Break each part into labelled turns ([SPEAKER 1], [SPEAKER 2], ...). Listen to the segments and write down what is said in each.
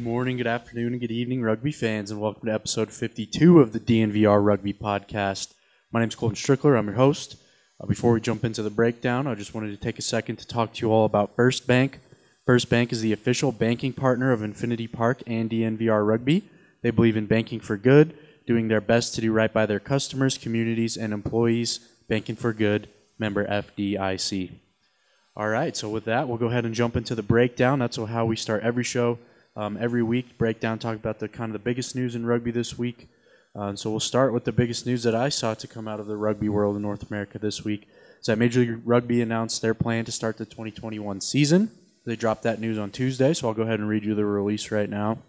[SPEAKER 1] morning, good afternoon, and good evening, rugby fans, and welcome to episode 52 of the DNVR Rugby Podcast. My name is Colton Strickler. I'm your host. Before we jump into the breakdown, I just wanted to take a second to talk to you all about First Bank. First Bank is the official banking partner of Infinity Park and DNVR Rugby. They believe in banking for good, doing their best to do right by their customers, communities, and employees. Banking for good, member FDIC. All right, so with that, we'll go ahead and jump into the breakdown. That's how we start every show, every week. Breakdown, talk about the biggest news in rugby this week. So we'll start with the biggest news that I saw to come out of the rugby world in North America this week. Is that Major League Rugby announced their plan to start the 2021 season. They dropped that news on Tuesday, so I'll go ahead and read you the release right now.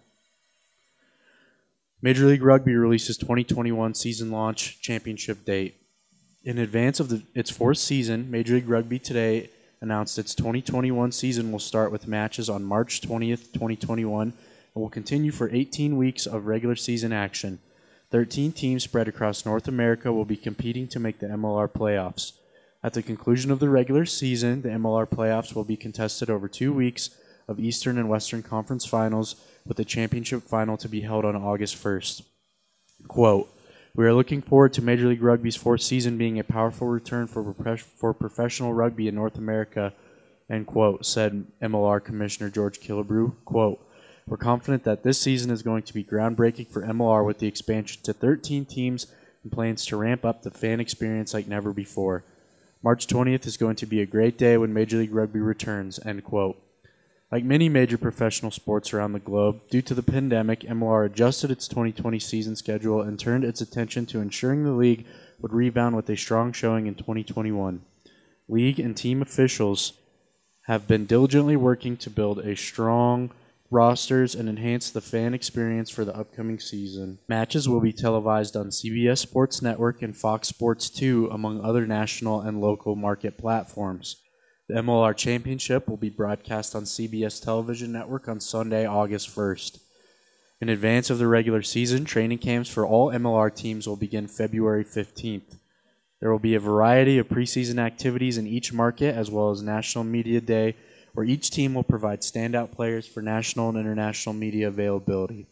[SPEAKER 1] Major League Rugby releases 2021 season launch championship date. In advance of its fourth season, Major League Rugby today announced its 2021 season will start with matches on March 20th, 2021, and will continue for 18 weeks of regular season action. 13 teams spread across North America will be competing to make the MLR playoffs. At the conclusion of the regular season, the MLR playoffs will be contested over 2 weeks of Eastern and Western Conference finals, with the championship final to be held on August 1st. Quote, "We are looking forward to Major League Rugby's fourth season being a powerful return for professional rugby in North America," end quote, said MLR Commissioner George Killebrew. Quote, "We're confident that this season is going to be groundbreaking for MLR with the expansion to 13 teams and plans to ramp up the fan experience like never before. March 20th is going to be a great day when Major League Rugby returns," end quote. Like many major professional sports around the globe, due to the pandemic, MLR adjusted its 2020 season schedule and turned its attention to ensuring the league would rebound with a strong showing in 2021. League and team officials have been diligently working to build a strong rosters and enhance the fan experience for the upcoming season. Matches will be televised on CBS Sports Network and Fox Sports 2, among other national and local market platforms. The MLR Championship will be broadcast on CBS Television Network on Sunday, August 1st. In advance of the regular season, training camps for all MLR teams will begin February 15th. There will be a variety of preseason activities in each market, as well as National Media Day, where each team will provide standout players for national and international media availability.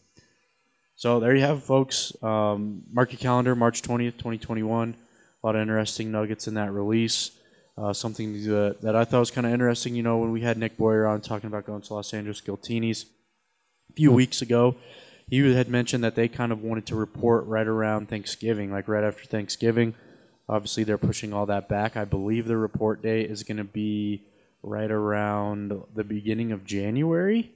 [SPEAKER 1] So there you have it, folks. Mark your calendar, March 20th, 2021. A lot of interesting nuggets in that release. Something that I thought was kind of interesting, when we had Nick Boyer on talking about going to Los Angeles Giltinis a few weeks ago, he had mentioned that they kind of wanted to report right around Thanksgiving, like right after Thanksgiving. Obviously, they're pushing all that back. I believe the report date is going to be right around the beginning of January.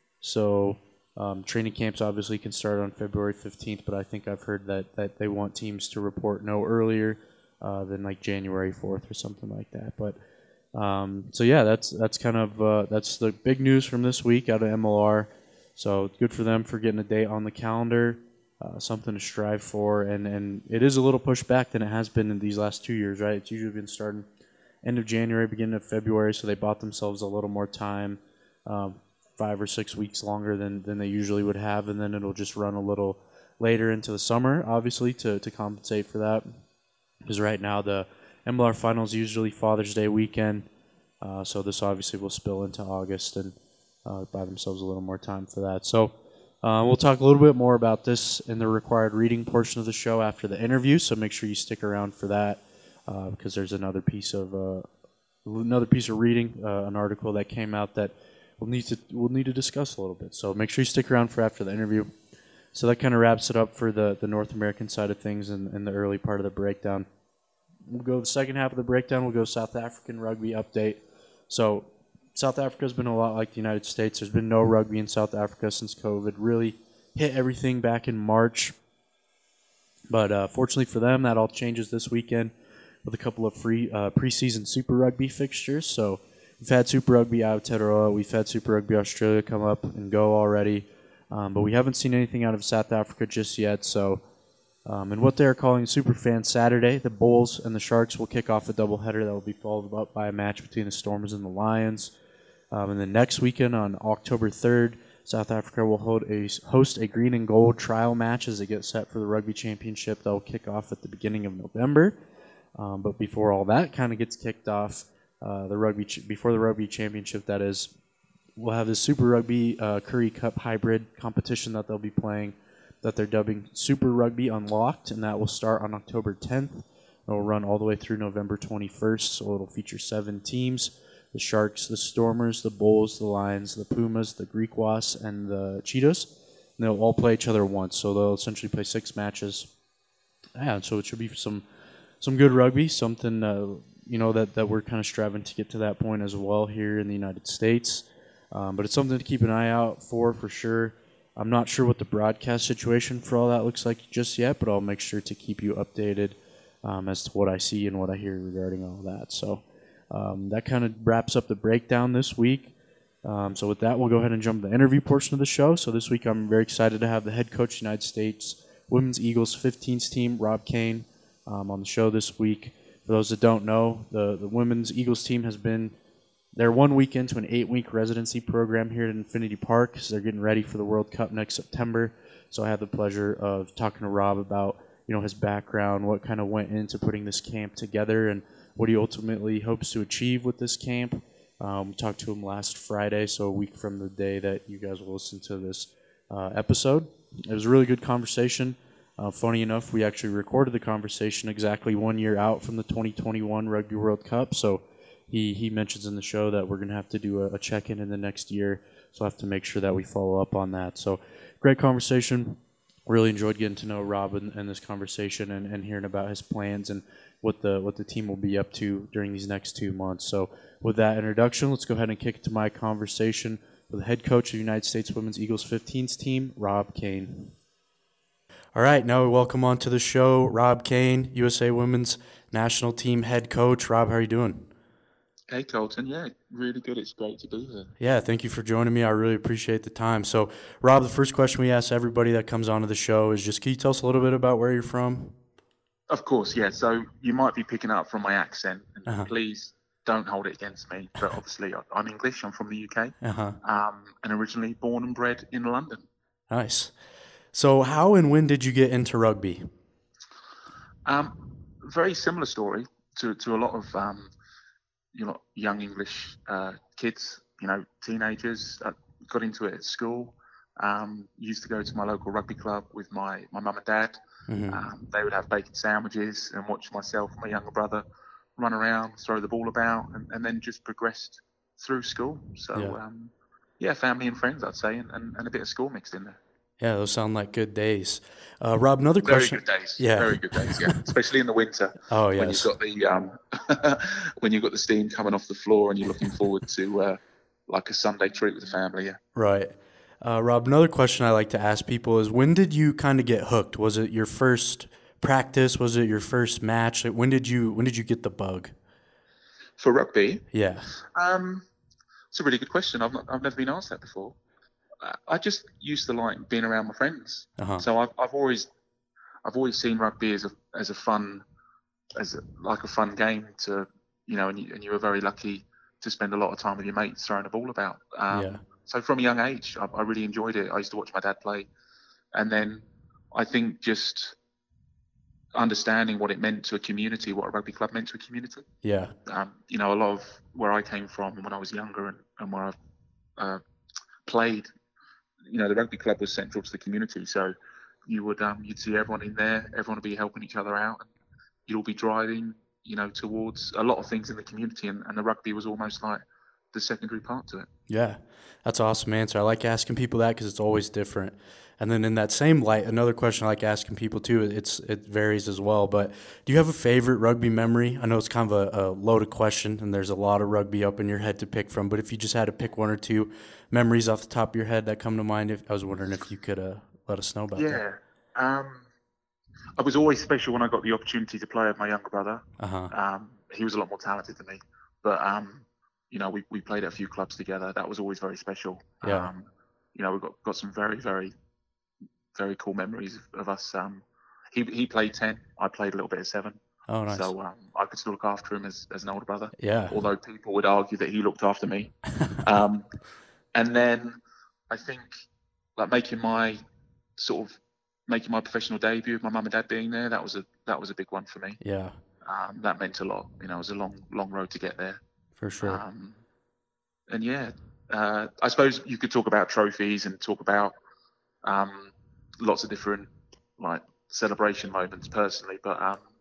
[SPEAKER 1] So training camps obviously can start on February 15th, but I think I've heard that they want teams to report no earlier than like January 4th or something like that. But so yeah, that's kind of that's the big news from this week out of MLR. So good for them for getting a date on the calendar, something to strive for, and it is a little pushed back than it has been in these last 2 years, right? It's usually been starting end of January, beginning of February, so they bought themselves a little more time, 5 or 6 weeks longer than they usually would have, and then it'll just run a little later into the summer, obviously, to compensate for that. Because right now the MLR Finals usually Father's Day weekend, so this obviously will spill into August and buy themselves a little more time for that. So we'll talk a little bit more about this in the required reading portion of the show after the interview, so make sure you stick around for that because there's another piece of reading, an article that came out that we'll need to discuss a little bit. So make sure you stick around for after the interview. So that kind of wraps it up for the North American side of things in the early part of the breakdown. We'll go the second half of the breakdown. We'll go South African rugby update. So South Africa's been a lot like the United States. There's been no rugby in South Africa since COVID really hit everything back in March. But fortunately for them, that all changes this weekend with a couple of free preseason Super Rugby fixtures. So we've had Super Rugby Aotearoa, we've had Super Rugby Australia come up and go already. But we haven't seen anything out of South Africa just yet. So, and what they're calling Superfan Saturday, the Bulls and the Sharks will kick off a doubleheader that will be followed up by a match between the Stormers and the Lions. And then next weekend on October 3rd, South Africa will host a green and gold trial match as they get set for the Rugby Championship that will kick off at the beginning of November. But before all that kind of gets kicked off, before the Rugby Championship, that is, we'll have this Super Rugby Currie Cup hybrid competition that they'll be playing, that they're dubbing Super Rugby Unlocked, and that will start on October 10th. It'll run all the way through November 21st, so it'll feature 7 teams: the Sharks, the Stormers, the Bulls, the Lions, the Pumas, the Greek Wasps, and the Cheetahs. And they'll all play each other once, so they'll essentially play 6 matches. Yeah, so it should be some good rugby, something that we're kind of striving to get to that point as well here in the United States. But it's something to keep an eye out for sure. I'm not sure what the broadcast situation for all that looks like just yet, but I'll make sure to keep you updated as to what I see and what I hear regarding all that. So that kind of wraps up the breakdown this week. So with that, we'll go ahead and jump to the interview portion of the show. So this week, I'm very excited to have the head coach of the United States Women's Eagles 15s team, Rob Cain, on the show this week. For those that don't know, the Women's Eagles team has been they're 1 week into an 8-week residency program here at Infinity Park because they're getting ready for the World Cup next September. So I had the pleasure of talking to Rob about his background, what kind of went into putting this camp together, and what he ultimately hopes to achieve with this camp. We talked to him last Friday, so a week from the day that you guys will listen to this episode. It was a really good conversation. Funny enough, we actually recorded the conversation exactly 1 year out from the 2021 Rugby World Cup, so he mentions in the show that we're going to have to do a check-in in the next year, so I have to make sure that we follow up on that. So great conversation. Really enjoyed getting to know Rob in this conversation and hearing about his plans and what the team will be up to during these next 2 months. So with that introduction, let's go ahead and kick it to my conversation with the head coach of the United States Women's Eagles 15s team, Rob Cain. All right, now we welcome on to the show Rob Cain, USA Women's National Team head coach. Rob, how are you doing?
[SPEAKER 2] Hey, Colton. Yeah, really good. It's great to be here.
[SPEAKER 1] Yeah, thank you for joining me. I really appreciate the time. So, Rob, the first question we ask everybody that comes onto the show is just, can you tell us a little bit about where you're from?
[SPEAKER 2] Of course, yeah. So you might be picking up from my accent, and please don't hold it against me. But obviously, I'm English. I'm from the UK, and originally born and bred in London.
[SPEAKER 1] Nice. So how and when did you get into rugby?
[SPEAKER 2] Very similar story to a lot of young English kids, teenagers. Got into it at school. Used to go to my local rugby club with my mum and dad. Mm-hmm. They would have bacon sandwiches and watch myself and my younger brother run around, throw the ball about, and then just progressed through school. So, family and friends, I'd say, and a bit of school mixed in there.
[SPEAKER 1] Yeah, those sound like good days. Rob, another question.
[SPEAKER 2] Very good days. Yeah, very good days. Yeah, especially in the winter.
[SPEAKER 1] Oh yes.
[SPEAKER 2] When you've got the when you've got the steam coming off the floor and you're looking forward to like a Sunday treat with the family. Yeah.
[SPEAKER 1] Right. Rob, another question I like to ask people is, when did you kind of get hooked? Was it your first practice? Was it your first match? Like, when did you get the bug?
[SPEAKER 2] For rugby?
[SPEAKER 1] Yeah.
[SPEAKER 2] It's a really good question. I've never been asked that before. I just used to like being around my friends. So I've always seen rugby as a fun game to, and you were very lucky to spend a lot of time with your mates throwing a ball about. So from a young age, I really enjoyed it. I used to watch my dad play, and then I think just understanding what it meant to a community, what a rugby club meant to a community.
[SPEAKER 1] Yeah.
[SPEAKER 2] A lot of where I came from when I was younger and where I played, the rugby club was central to the community. So you would you'd see everyone in there, everyone would be helping each other out, and you'd all be driving, towards a lot of things in the community, and the rugby was almost like the secondary part to it.
[SPEAKER 1] Yeah, that's an awesome answer. I like asking people that because it's always different. And then in that same light, another question I like asking people too, it varies as well, but do you have a favorite rugby memory? I know it's kind of a loaded question, and there's a lot of rugby up in your head to pick from, but if you just had to pick one or two memories off the top of your head that come to mind, I was wondering if you could let us know about that.
[SPEAKER 2] Yeah. I was always special when I got the opportunity to play with my younger brother. He was a lot more talented than me, but we played at a few clubs together. That was always very special.
[SPEAKER 1] Yeah.
[SPEAKER 2] We got some very, very, very cool memories of us. He played 10. I played a little bit of 7.
[SPEAKER 1] Oh, nice.
[SPEAKER 2] So I could still look after him as an older brother.
[SPEAKER 1] Yeah.
[SPEAKER 2] Although people would argue that he looked after me. And then I think like making my professional debut with my mum and dad being there, that was a big one for me.
[SPEAKER 1] Yeah.
[SPEAKER 2] That meant a lot. It was a long road to get there.
[SPEAKER 1] For sure.
[SPEAKER 2] And yeah, I suppose you could talk about trophies and talk about lots of different like celebration moments personally, but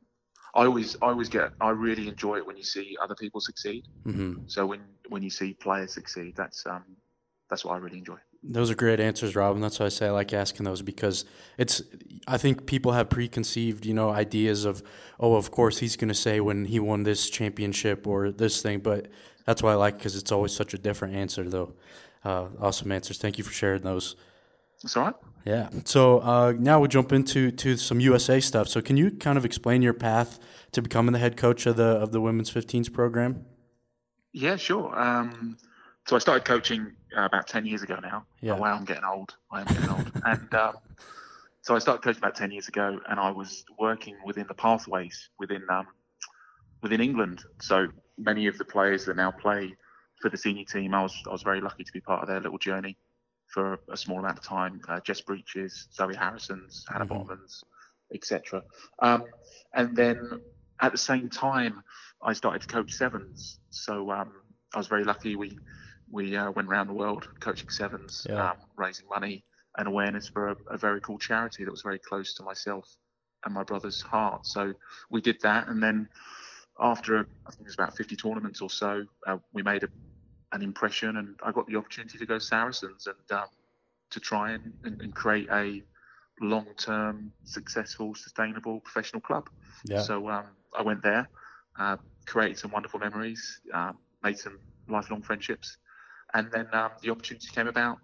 [SPEAKER 2] I really enjoy it when you see other people succeed.
[SPEAKER 1] Mm-hmm.
[SPEAKER 2] So when you see players succeed, that's what I really enjoy.
[SPEAKER 1] Those are great answers, Rob, and that's why I say I like asking those, because I think people have preconceived, ideas of, oh, of course he's going to say when he won this championship or this thing, but that's why I like, because it's always such a different answer, though. Awesome answers. Thank you for sharing those.
[SPEAKER 2] That's all right.
[SPEAKER 1] Yeah. So now we'll jump into some USA stuff. So can you kind of explain your path to becoming the head coach of the women's 15s program?
[SPEAKER 2] Yeah, sure. So I started coaching about 10 years ago now.
[SPEAKER 1] Yeah.
[SPEAKER 2] Oh, wow, I'm getting old. I am getting old. And so I started coaching about 10 years ago, and I was working within the pathways within England. So many of the players that now play for the senior team, I was very lucky to be part of their little journey for a small amount of time. Jess Breaches, Zoe Harrison's, Hannah Bottomans, etc. And then at the same time, I started to coach sevens. So I was very lucky. We went around the world coaching sevens, raising money and awareness for a very cool charity that was very close to myself and my brother's heart. So we did that, and then after I think it was about 50 tournaments or so, we made an impression, and I got the opportunity to go Saracens and to try and create a long-term, successful, sustainable professional club.
[SPEAKER 1] Yeah.
[SPEAKER 2] So I went there, created some wonderful memories, made some lifelong friendships, and then the opportunity came about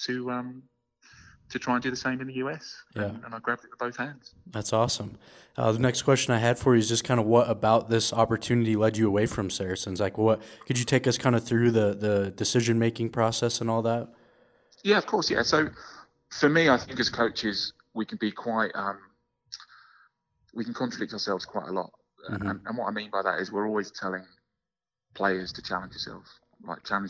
[SPEAKER 2] to try and do the same in the US.
[SPEAKER 1] Yeah.
[SPEAKER 2] And I grabbed it with both hands.
[SPEAKER 1] That's awesome. The next question I had for you is just kind of what about this opportunity led you away from Saracens? Like, what could you take us kind of through the decision-making process and all that?
[SPEAKER 2] Yeah, of course. Yeah. So for me, I think as coaches, we can be quite, we can contradict ourselves quite a lot.
[SPEAKER 1] Mm-hmm.
[SPEAKER 2] And what I mean by that is we're always telling players to challenge yourself, challenge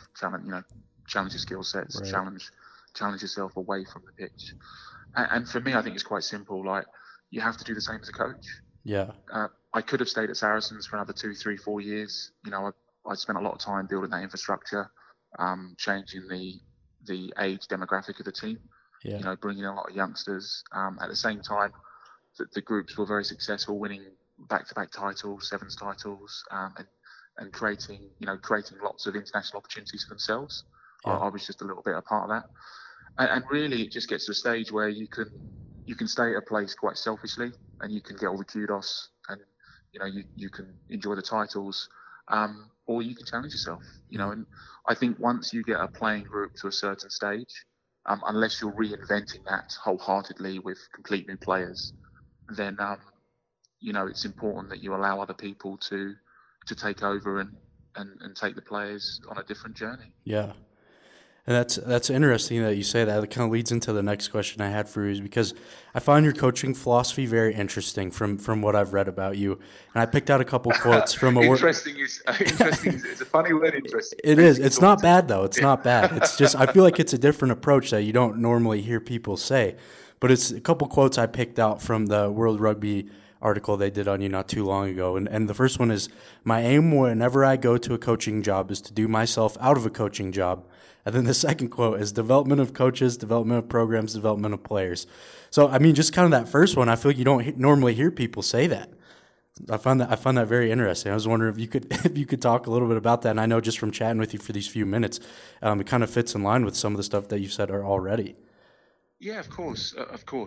[SPEAKER 2] your skill sets,
[SPEAKER 1] Right.
[SPEAKER 2] challenge yourself away from the pitch. And for me, I think it's quite simple. Like, you have to do the same as a coach.
[SPEAKER 1] Yeah.
[SPEAKER 2] I could have stayed at Saracens for another 2, 3, 4 years. I spent a lot of time building that infrastructure, changing the age demographic of the team.
[SPEAKER 1] Yeah.
[SPEAKER 2] Bringing in a lot of youngsters. At the same time, the groups were very successful, winning back-to-back titles, sevens titles, and creating lots of international opportunities for themselves.
[SPEAKER 1] Yeah.
[SPEAKER 2] I was just a little bit a part of that. And really, it just gets to a stage where you can stay at a place quite selfishly, and you can get all the kudos, and you can enjoy the titles, or you can challenge yourself. And I think once you get a playing group to a certain stage, unless you're reinventing that wholeheartedly with complete new players, then it's important that you allow other people to take over and take the players on a different journey.
[SPEAKER 1] Yeah. And that's interesting that you say that. It kind of leads into the next question I had for you, is because I find your coaching philosophy very interesting from what I've read about you. And I picked out a couple quotes from a
[SPEAKER 2] interesting is it's a funny word, interesting.
[SPEAKER 1] It is. It's not bad, though. It's not bad. It's just, I feel like it's a different approach that you don't normally hear people say. But it's a couple quotes I picked out from the World Rugby article they did on you not too long ago. And the first one is, my aim whenever I go to a coaching job is to do myself out of a coaching job. And then the second quote is, development of coaches, development of programs, development of players. So, I mean, just kind of that first one, I feel like you don't normally hear people say that. I find that very interesting. I was wondering if you could talk a little bit about that. And I know just from chatting with you for these few minutes, it kind of fits in line with some of the stuff that you've said already.
[SPEAKER 2] Yeah, of course.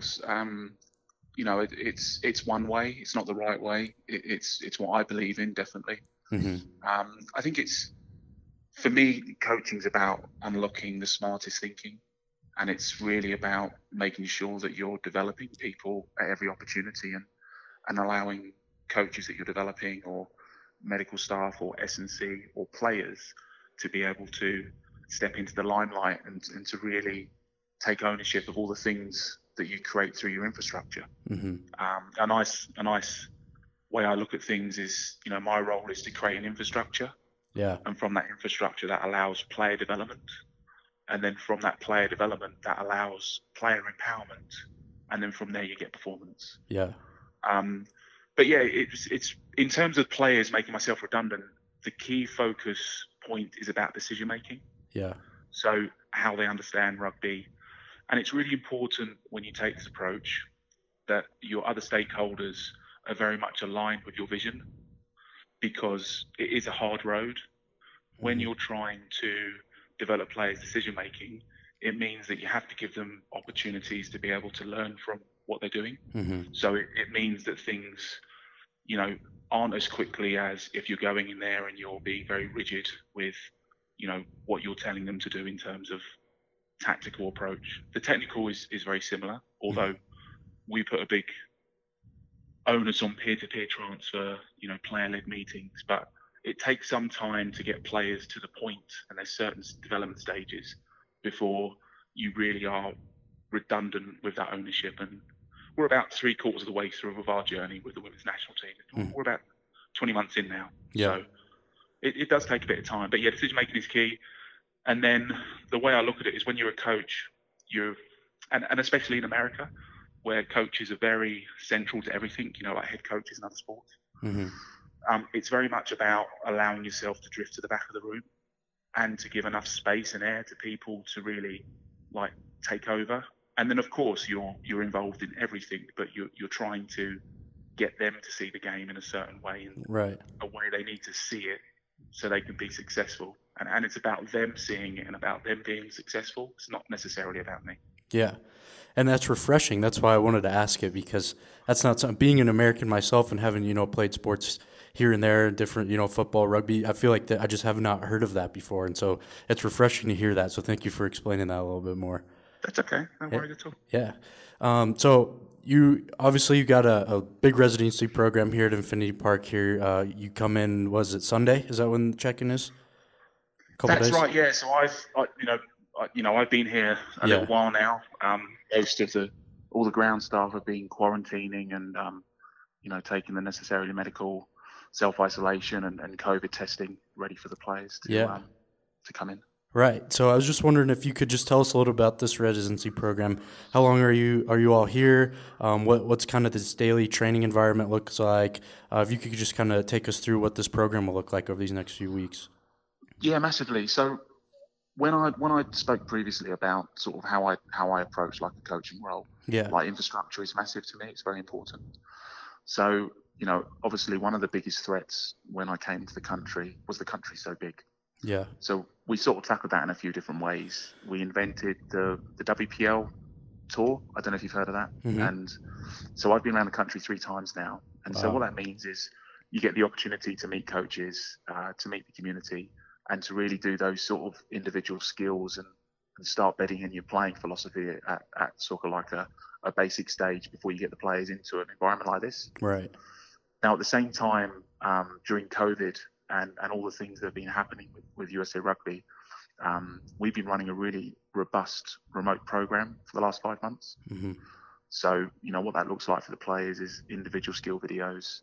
[SPEAKER 2] It's one way. It's not the right way. It's what I believe in, definitely.
[SPEAKER 1] Mm-hmm.
[SPEAKER 2] I think for me, coaching's about unlocking the smartest thinking, and it's really about making sure that you're developing people at every opportunity and allowing coaches that you're developing, or medical staff, or S&C, or players, to be able to step into the limelight and to really take ownership of all the things that you create through your infrastructure.
[SPEAKER 1] Mm-hmm.
[SPEAKER 2] A nice way I look at things is, my role is to create an infrastructure.
[SPEAKER 1] Yeah.
[SPEAKER 2] And from that infrastructure, that allows player development. And then from that player development, that allows player empowerment. And then from there, you get performance.
[SPEAKER 1] Yeah.
[SPEAKER 2] But yeah, it's in terms of players, making myself redundant, the key focus point is about decision making.
[SPEAKER 1] Yeah.
[SPEAKER 2] So how they understand rugby. And it's really important when you take this approach that your other stakeholders are very much aligned with your vision, because it is a hard road. When
[SPEAKER 1] Mm-hmm.
[SPEAKER 2] you're trying to develop players' decision making, it means that you have to give them opportunities to be able to learn from what they're doing.
[SPEAKER 1] Mm-hmm.
[SPEAKER 2] So it means that things, you know, aren't as quickly as if you're going in there and you're being very rigid with, what you're telling them to do in terms of tactical approach. The technical is very similar, although we put a big onus on peer-to-peer transfer, player-led meetings, but it takes some time to get players to the point, and there's certain development stages before you really are redundant with that ownership. And we're about 3/4 of the way through of our journey with the women's national team. We're about 20 months in now.
[SPEAKER 1] Yeah.
[SPEAKER 2] So it does take a bit of time, but yeah, decision making is key. And then the way I look at it is when you're a coach, and especially in America, where coaches are very central to everything, like head coaches in other sports.
[SPEAKER 1] Mm-hmm.
[SPEAKER 2] It's very much about allowing yourself to drift to the back of the room and to give enough space and air to people to really take over. And then of course you're involved in everything, but you're trying to get them to see the game in a certain way, and
[SPEAKER 1] Right.
[SPEAKER 2] a way they need to see it so they can be successful. And it's about them seeing it and about them being successful. It's not necessarily about me.
[SPEAKER 1] Yeah. And that's refreshing. That's why I wanted to ask it, because that's not something, being an American myself and having, played sports here and there, different, football, rugby, I feel like that I just have not heard of that before. And so it's refreshing to hear that. So thank you for explaining that a little bit more.
[SPEAKER 2] That's okay. No worries at all.
[SPEAKER 1] Yeah. So you got a big residency program here at Infinity Park here. You come in, was it Sunday? Is that when the check-in is?
[SPEAKER 2] That's right. Yeah. So I've been here a little while now. Most of all the ground staff have been quarantining and taking the necessary medical self-isolation and COVID testing ready for the players to come in.
[SPEAKER 1] Right. So I was just wondering if you could just tell us a little about this residency program. How long are you all here? What's kind of this daily training environment looks like? If you could just kind of take us through what this program will look like over these next few weeks.
[SPEAKER 2] Yeah, massively. So when I spoke previously about sort of how I approach a coaching role, infrastructure is massive to me. It's very important. So obviously one of the biggest threats when I came to the country was the country so big.
[SPEAKER 1] Yeah.
[SPEAKER 2] So we sort of tackled that in a few different ways. We invented the WPL tour. I don't know if you've heard of that.
[SPEAKER 1] Mm-hmm.
[SPEAKER 2] And so I've been around the country 3 times now. And so what that means is you get the opportunity to meet coaches, to meet the community, and to really do those sort of individual skills and start bedding in your playing philosophy at sort of like a basic stage before you get the players into an environment like this.
[SPEAKER 1] Right.
[SPEAKER 2] Now, at the same time, during COVID and all the things that have been happening with USA Rugby, we've been running a really robust remote program for the last 5 months.
[SPEAKER 1] Mm-hmm.
[SPEAKER 2] So, what that looks like for the players is individual skill videos.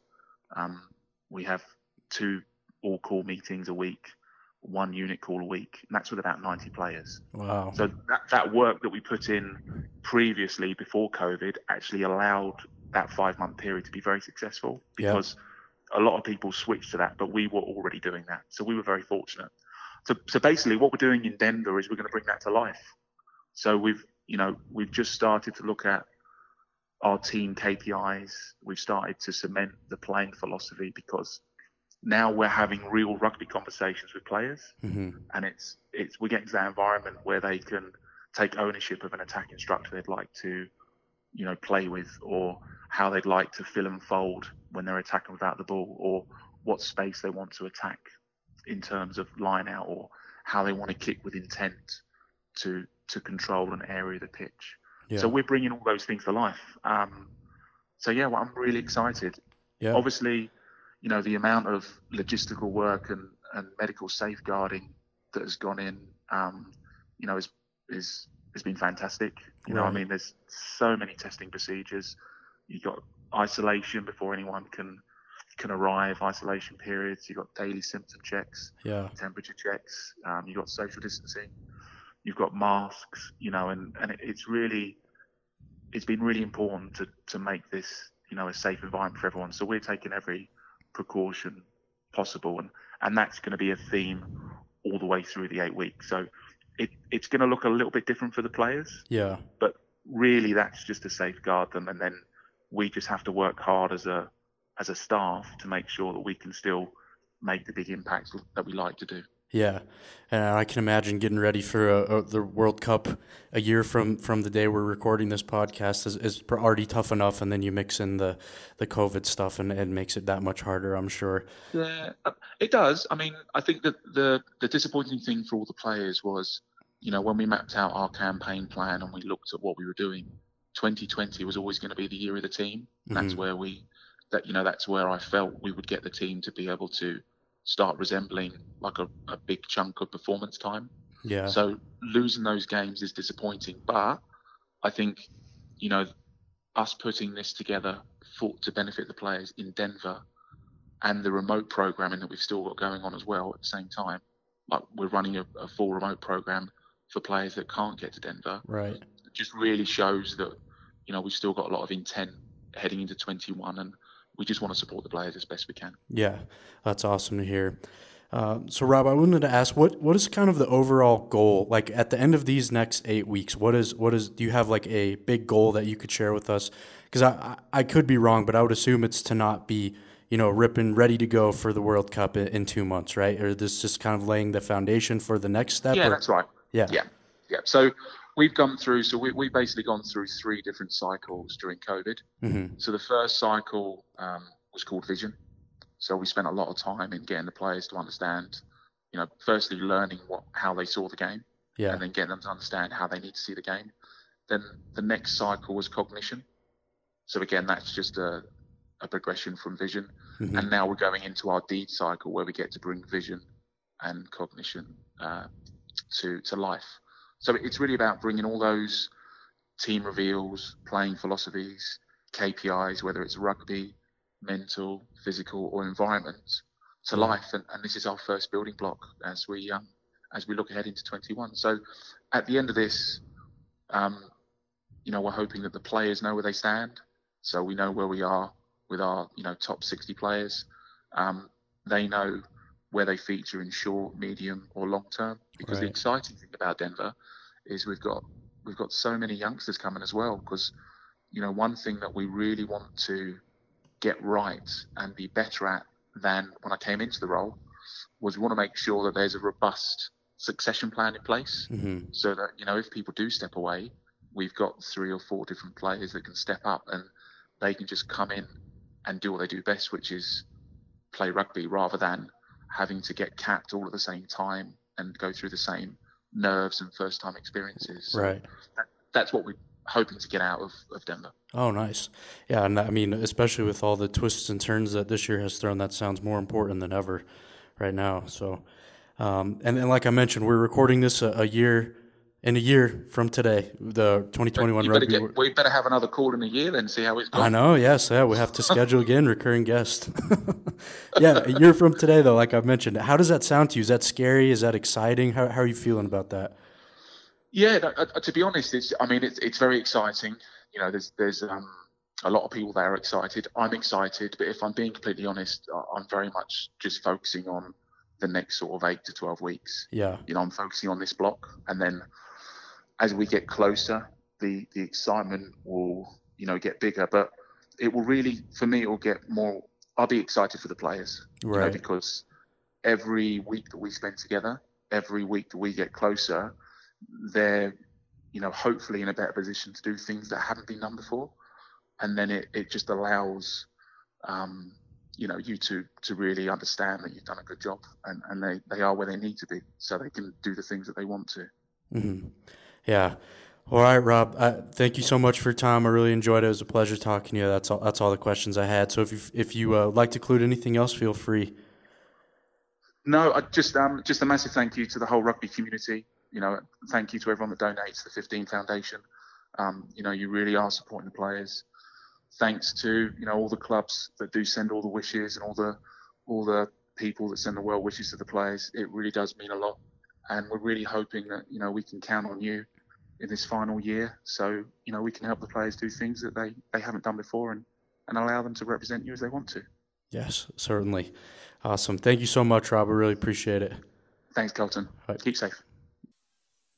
[SPEAKER 2] We have 2 all-call meetings a week, 1 unit call a week, and that's with about 90 players.
[SPEAKER 1] Wow.
[SPEAKER 2] So that work that we put in previously before COVID actually allowed that 5-month period to be very successful, because a lot of people switched to that, but we were already doing that. So we were very fortunate. So basically what we're doing in Denver is we're going to bring that to life. So we've just started to look at our team KPIs. We've started to cement the playing philosophy, because now we're having real rugby conversations with players.
[SPEAKER 1] Mm-hmm.
[SPEAKER 2] And we're getting to that environment where they can take ownership of an attack instructor they'd like to, play with, or how they'd like to fill and fold when they're attacking without the ball, or what space they want to attack in terms of line out, or how they want to kick with intent to control an area of the pitch. Yeah. So we're bringing all those things to life. I'm really excited.
[SPEAKER 1] Yeah.
[SPEAKER 2] Obviously, the amount of logistical work and medical safeguarding that has gone in, has been fantastic. There's so many testing procedures. You've got isolation before anyone can arrive, isolation periods. You've got daily symptom checks, temperature checks. You've got social distancing. You've got masks, and it's been really important to make this, a safe environment for everyone. So we're taking every precaution possible, and that's going to be a theme all the way through the 8 weeks. So it's going to look a little bit different for the players.
[SPEAKER 1] Yeah.
[SPEAKER 2] But really, that's just to safeguard them, and then we just have to work hard as a staff to make sure that we can still make the big impacts that we like to do.
[SPEAKER 1] Yeah, and I can imagine getting ready for the World Cup a year from the day we're recording this podcast is already tough enough, and then you mix in the COVID stuff, and it makes it that much harder, I'm sure.
[SPEAKER 2] Yeah, it does. I mean, I think that the disappointing thing for all the players was, when we mapped out our campaign plan and we looked at what we were doing, 2020 was always going to be the year of the team.
[SPEAKER 1] Mm-hmm.
[SPEAKER 2] That's where that's where I felt we would get the team to be able to start resembling like a big chunk of performance time.
[SPEAKER 1] Yeah.
[SPEAKER 2] So losing those games is disappointing, but I think, us putting this together to benefit the players in Denver and the remote programming that we've still got going on as well at the same time, like we're running a full remote program for players that can't get to Denver.
[SPEAKER 1] Right.
[SPEAKER 2] It just really shows that, we've still got a lot of intent heading into 21, and we just want to support the players as best we can.
[SPEAKER 1] Yeah, that's awesome to hear. So, Rob, I wanted to ask, what is kind of the overall goal? Like at the end of these next 8 weeks, what is? Do you have like a big goal that you could share with us? Because I could be wrong, but I would assume it's to not be, ripping ready to go for the World Cup in 2 months, right? Or this just kind of laying the foundation for the next step?
[SPEAKER 2] Yeah, that's right.
[SPEAKER 1] Yeah.
[SPEAKER 2] So we've we basically gone through 3 different cycles during COVID.
[SPEAKER 1] Mm-hmm.
[SPEAKER 2] So the first cycle was called Vision. So we spent a lot of time in getting the players to understand, firstly learning how they saw the game, and then getting them to understand how they need to see the game. Then the next cycle was Cognition. So again, that's just a progression from Vision. Mm-hmm. And now we're going into our Deed cycle where we get to bring Vision and Cognition to life. So it's really about bringing all those team reveals, playing philosophies, KPIs, whether it's rugby, mental, physical, or environment, to life. And this is our first building block as we look ahead into 21. So at the end of this, we're hoping that the players know where they stand. So we know where we are with our, top 60 players. They know where they feature in short, medium, or long term. Because The exciting thing about Denver is we've got so many youngsters coming as well. Because, one thing that we really want to get right and be better at than when I came into the role was we want to make sure that there's a robust succession plan in place. Mm-hmm. So that, if people do step away, we've got 3 or 4 different players that can step up and they can just come in and do what they do best, which is play rugby, rather than having to get capped all at the same time and go through the same nerves and first time experiences. So that's what we're hoping to get out of Denver.
[SPEAKER 1] Oh, nice. Yeah, and I mean, especially with all the twists and turns that this year has thrown, that sounds more important than ever right now. So, and like I mentioned, we're recording this a year from today, the 2021 rugby.
[SPEAKER 2] We better have another call in a year then, see how it's going.
[SPEAKER 1] I know, yes. Yeah, we have to schedule again, recurring guest. Yeah, a year from today, though, like I've mentioned. How does that sound to you? Is that scary? Is that exciting? How are you feeling about that?
[SPEAKER 2] Yeah, to be honest, it's very exciting. There's a lot of people that are excited. I'm excited, but if I'm being completely honest, I'm very much just focusing on the next sort of 8 to 12 weeks.
[SPEAKER 1] Yeah.
[SPEAKER 2] I'm focusing on this block, and then as we get closer, the excitement will, get bigger. But it will really, for me, it will get more. I'll be excited for the players,
[SPEAKER 1] right?
[SPEAKER 2] Because every week that we spend together, every week that we get closer, they're, hopefully in a better position to do things that haven't been done before. And then it just allows, you to really understand that you've done a good job and they are where they need to be so they can do the things that they want to.
[SPEAKER 1] Mm-hmm. Yeah. All right, Rob, thank you so much for your time. I really enjoyed it. It was a pleasure talking to you. That's all the questions I had. So if you like to include anything else, feel free.
[SPEAKER 2] No, just a massive thank you to the whole rugby community. Thank you to everyone that donates to the 15 Foundation. You really are supporting the players. Thanks to, all the clubs that do send all the wishes and all the people that send the well wishes to the players. It really does mean a lot. And we're really hoping that, we can count on you in this final year. So, we can help the players do things that they haven't done before and allow them to represent you as they want to.
[SPEAKER 1] Yes, certainly. Awesome. Thank you so much, Rob. I really appreciate it.
[SPEAKER 2] Thanks, Kelton. Right. Keep safe.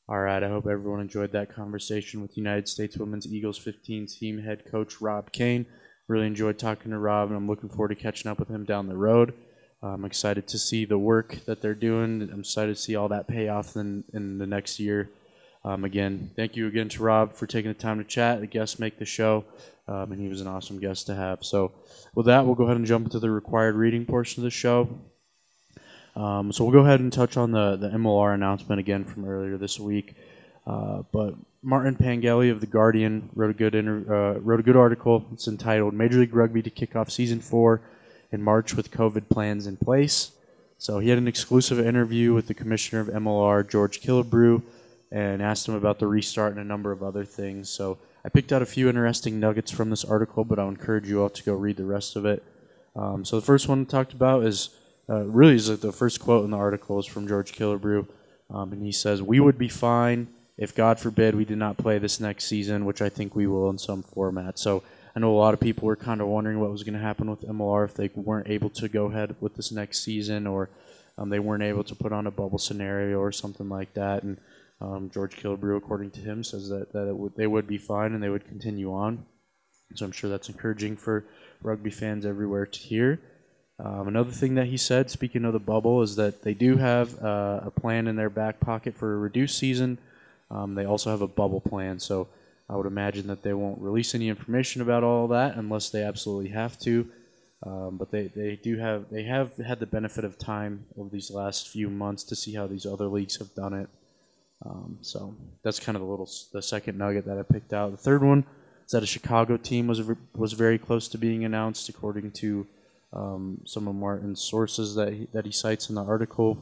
[SPEAKER 1] All right, I hope everyone enjoyed that conversation with United States Women's Eagles 15 team head coach Rob Kane. Really enjoyed talking to Rob, and I'm looking forward to catching up with him down the road. I'm excited to see the work that they're doing. I'm excited to see all that pay off in the next year. Again, thank you again to Rob for taking the time to chat. The guests make the show, and he was an awesome guest to have. So with that, we'll go ahead and jump into the required reading portion of the show. So we'll go ahead and touch on the MLR announcement again from earlier this week. But Martin Pangeli of The Guardian wrote a good article. It's entitled "Major League Rugby to Kick Off Season 4 in March with COVID Plans in Place." So he had an exclusive interview with the commissioner of MLR, George Killebrew, and asked him about the restart and a number of other things. So I picked out a few interesting nuggets from this article, but I'll encourage you all to go read the rest of it. So the first one talked about is the first quote in the article is from George Killebrew, and he says, "We would be fine if, God forbid, we did not play this next season," which I think we will in some format. So I know a lot of people were kind of wondering what was going to happen with MLR if they weren't able to go ahead with this next season, or they weren't able to put on a bubble scenario or something like that. And George Killebrew, according to him, says that they would be fine and they would continue on. So I'm sure that's encouraging for rugby fans everywhere to hear. Another thing that he said, speaking of the bubble, is that they do have a plan in their back pocket for a reduced season. They also have a bubble plan, so I would imagine that they won't release any information about all that unless they absolutely have to. But they have had the benefit of time over these last few months to see how these other leagues have done it. So that's kind of the second nugget that I picked out. The third one is that a Chicago team was very close to being announced, according to some of Martin's sources that he cites in the article.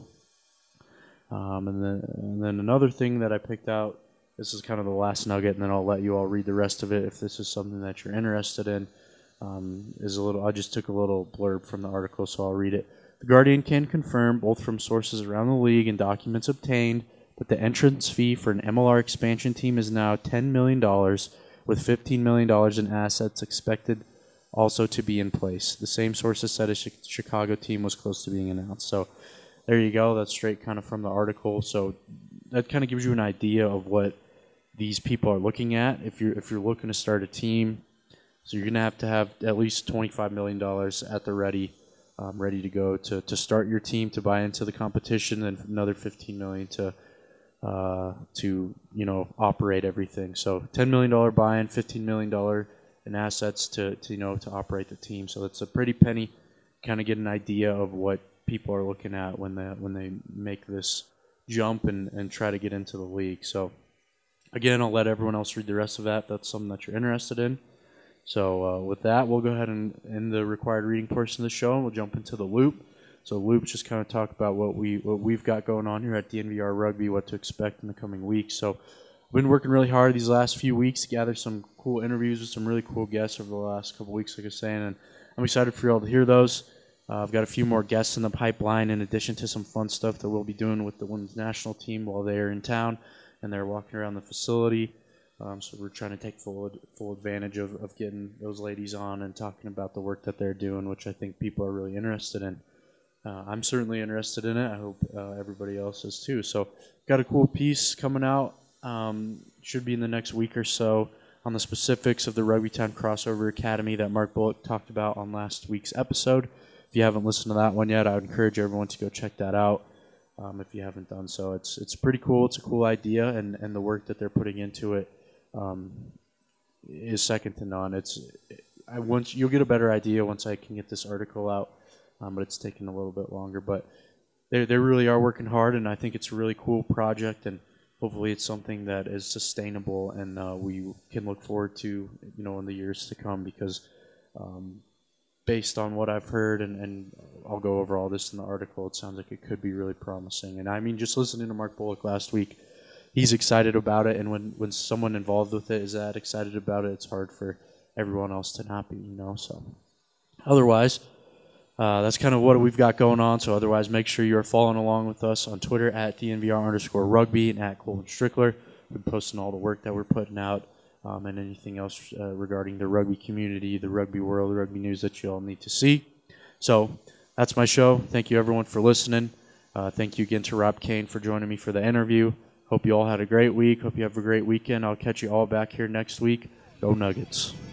[SPEAKER 1] And then another thing that I picked out, this is kind of the last nugget, and then I'll let you all read the rest of it if this is something that you're interested in. I just took a little blurb from the article, so I'll read it. "The Guardian can confirm, both from sources around the league and documents obtained, that the entrance fee for an MLR expansion team is now $10 million, with $15 million in assets expected also to be in place. The same sources said a Chicago team was close to being announced." So there you go. That's straight kind of from the article. So that kind of gives you an idea of what these people are looking at. If you're looking to start a team, so you're going to have at least $25 million at the ready to go to start your team, to buy into the competition, and another $15 million to operate everything. So $10 million buy-in, $15 million in assets to operate the team. So it's a pretty penny. Kind of get an idea of what people are looking at when they make this jump and try to get into the league. So again, I'll let everyone else read the rest of that if that's something that you're interested in. So with that, we'll go ahead and end the required reading portion of the show, and we'll jump into the loop. So loops just kind of talk about what we've got going on here at DNVR Rugby, what to expect in the coming weeks. So we've been working really hard these last few weeks to gather some cool interviews with some really cool guests over the last couple weeks, like I was saying, and I'm excited for you all to hear those. I've got a few more guests in the pipeline, in addition to some fun stuff that we'll be doing with the women's national team while they're in town and they're walking around the facility. So we're trying to take full advantage of getting those ladies on and talking about the work that they're doing, which I think people are really interested in. I'm certainly interested in it. I hope everybody else is too. So got a cool piece coming out. Should be in the next week or so on the specifics of the Rugby Time Crossover Academy that Mark Bullock talked about on last week's episode. If you haven't listened to that one yet, I would encourage everyone to go check that out if you haven't done so. It's pretty cool. It's a cool idea, and the work that they're putting into it is second to none. You'll get a better idea once I can get this article out, but it's taking a little bit longer. But they really are working hard, and I think it's a really cool project, and hopefully it's something that is sustainable and we can look forward to, in the years to come, because based on what I've heard, and I'll go over all this in the article, it sounds like it could be really promising. And I mean, just listening to Mark Bullock last week, he's excited about it, and when someone involved with it is that excited about it, it's hard for everyone else to not be, So otherwise, that's kind of what we've got going on. So otherwise, make sure you're following along with us on Twitter at DNVR_rugby and at Colin Strickler. We're posting all the work that we're putting out and anything else regarding the rugby community, the rugby world, the rugby news that you all need to see. So that's my show. Thank you, everyone, for listening. Thank you again to Rob Kane for joining me for the interview. Hope you all had a great week. Hope you have a great weekend. I'll catch you all back here next week. Go Nuggets.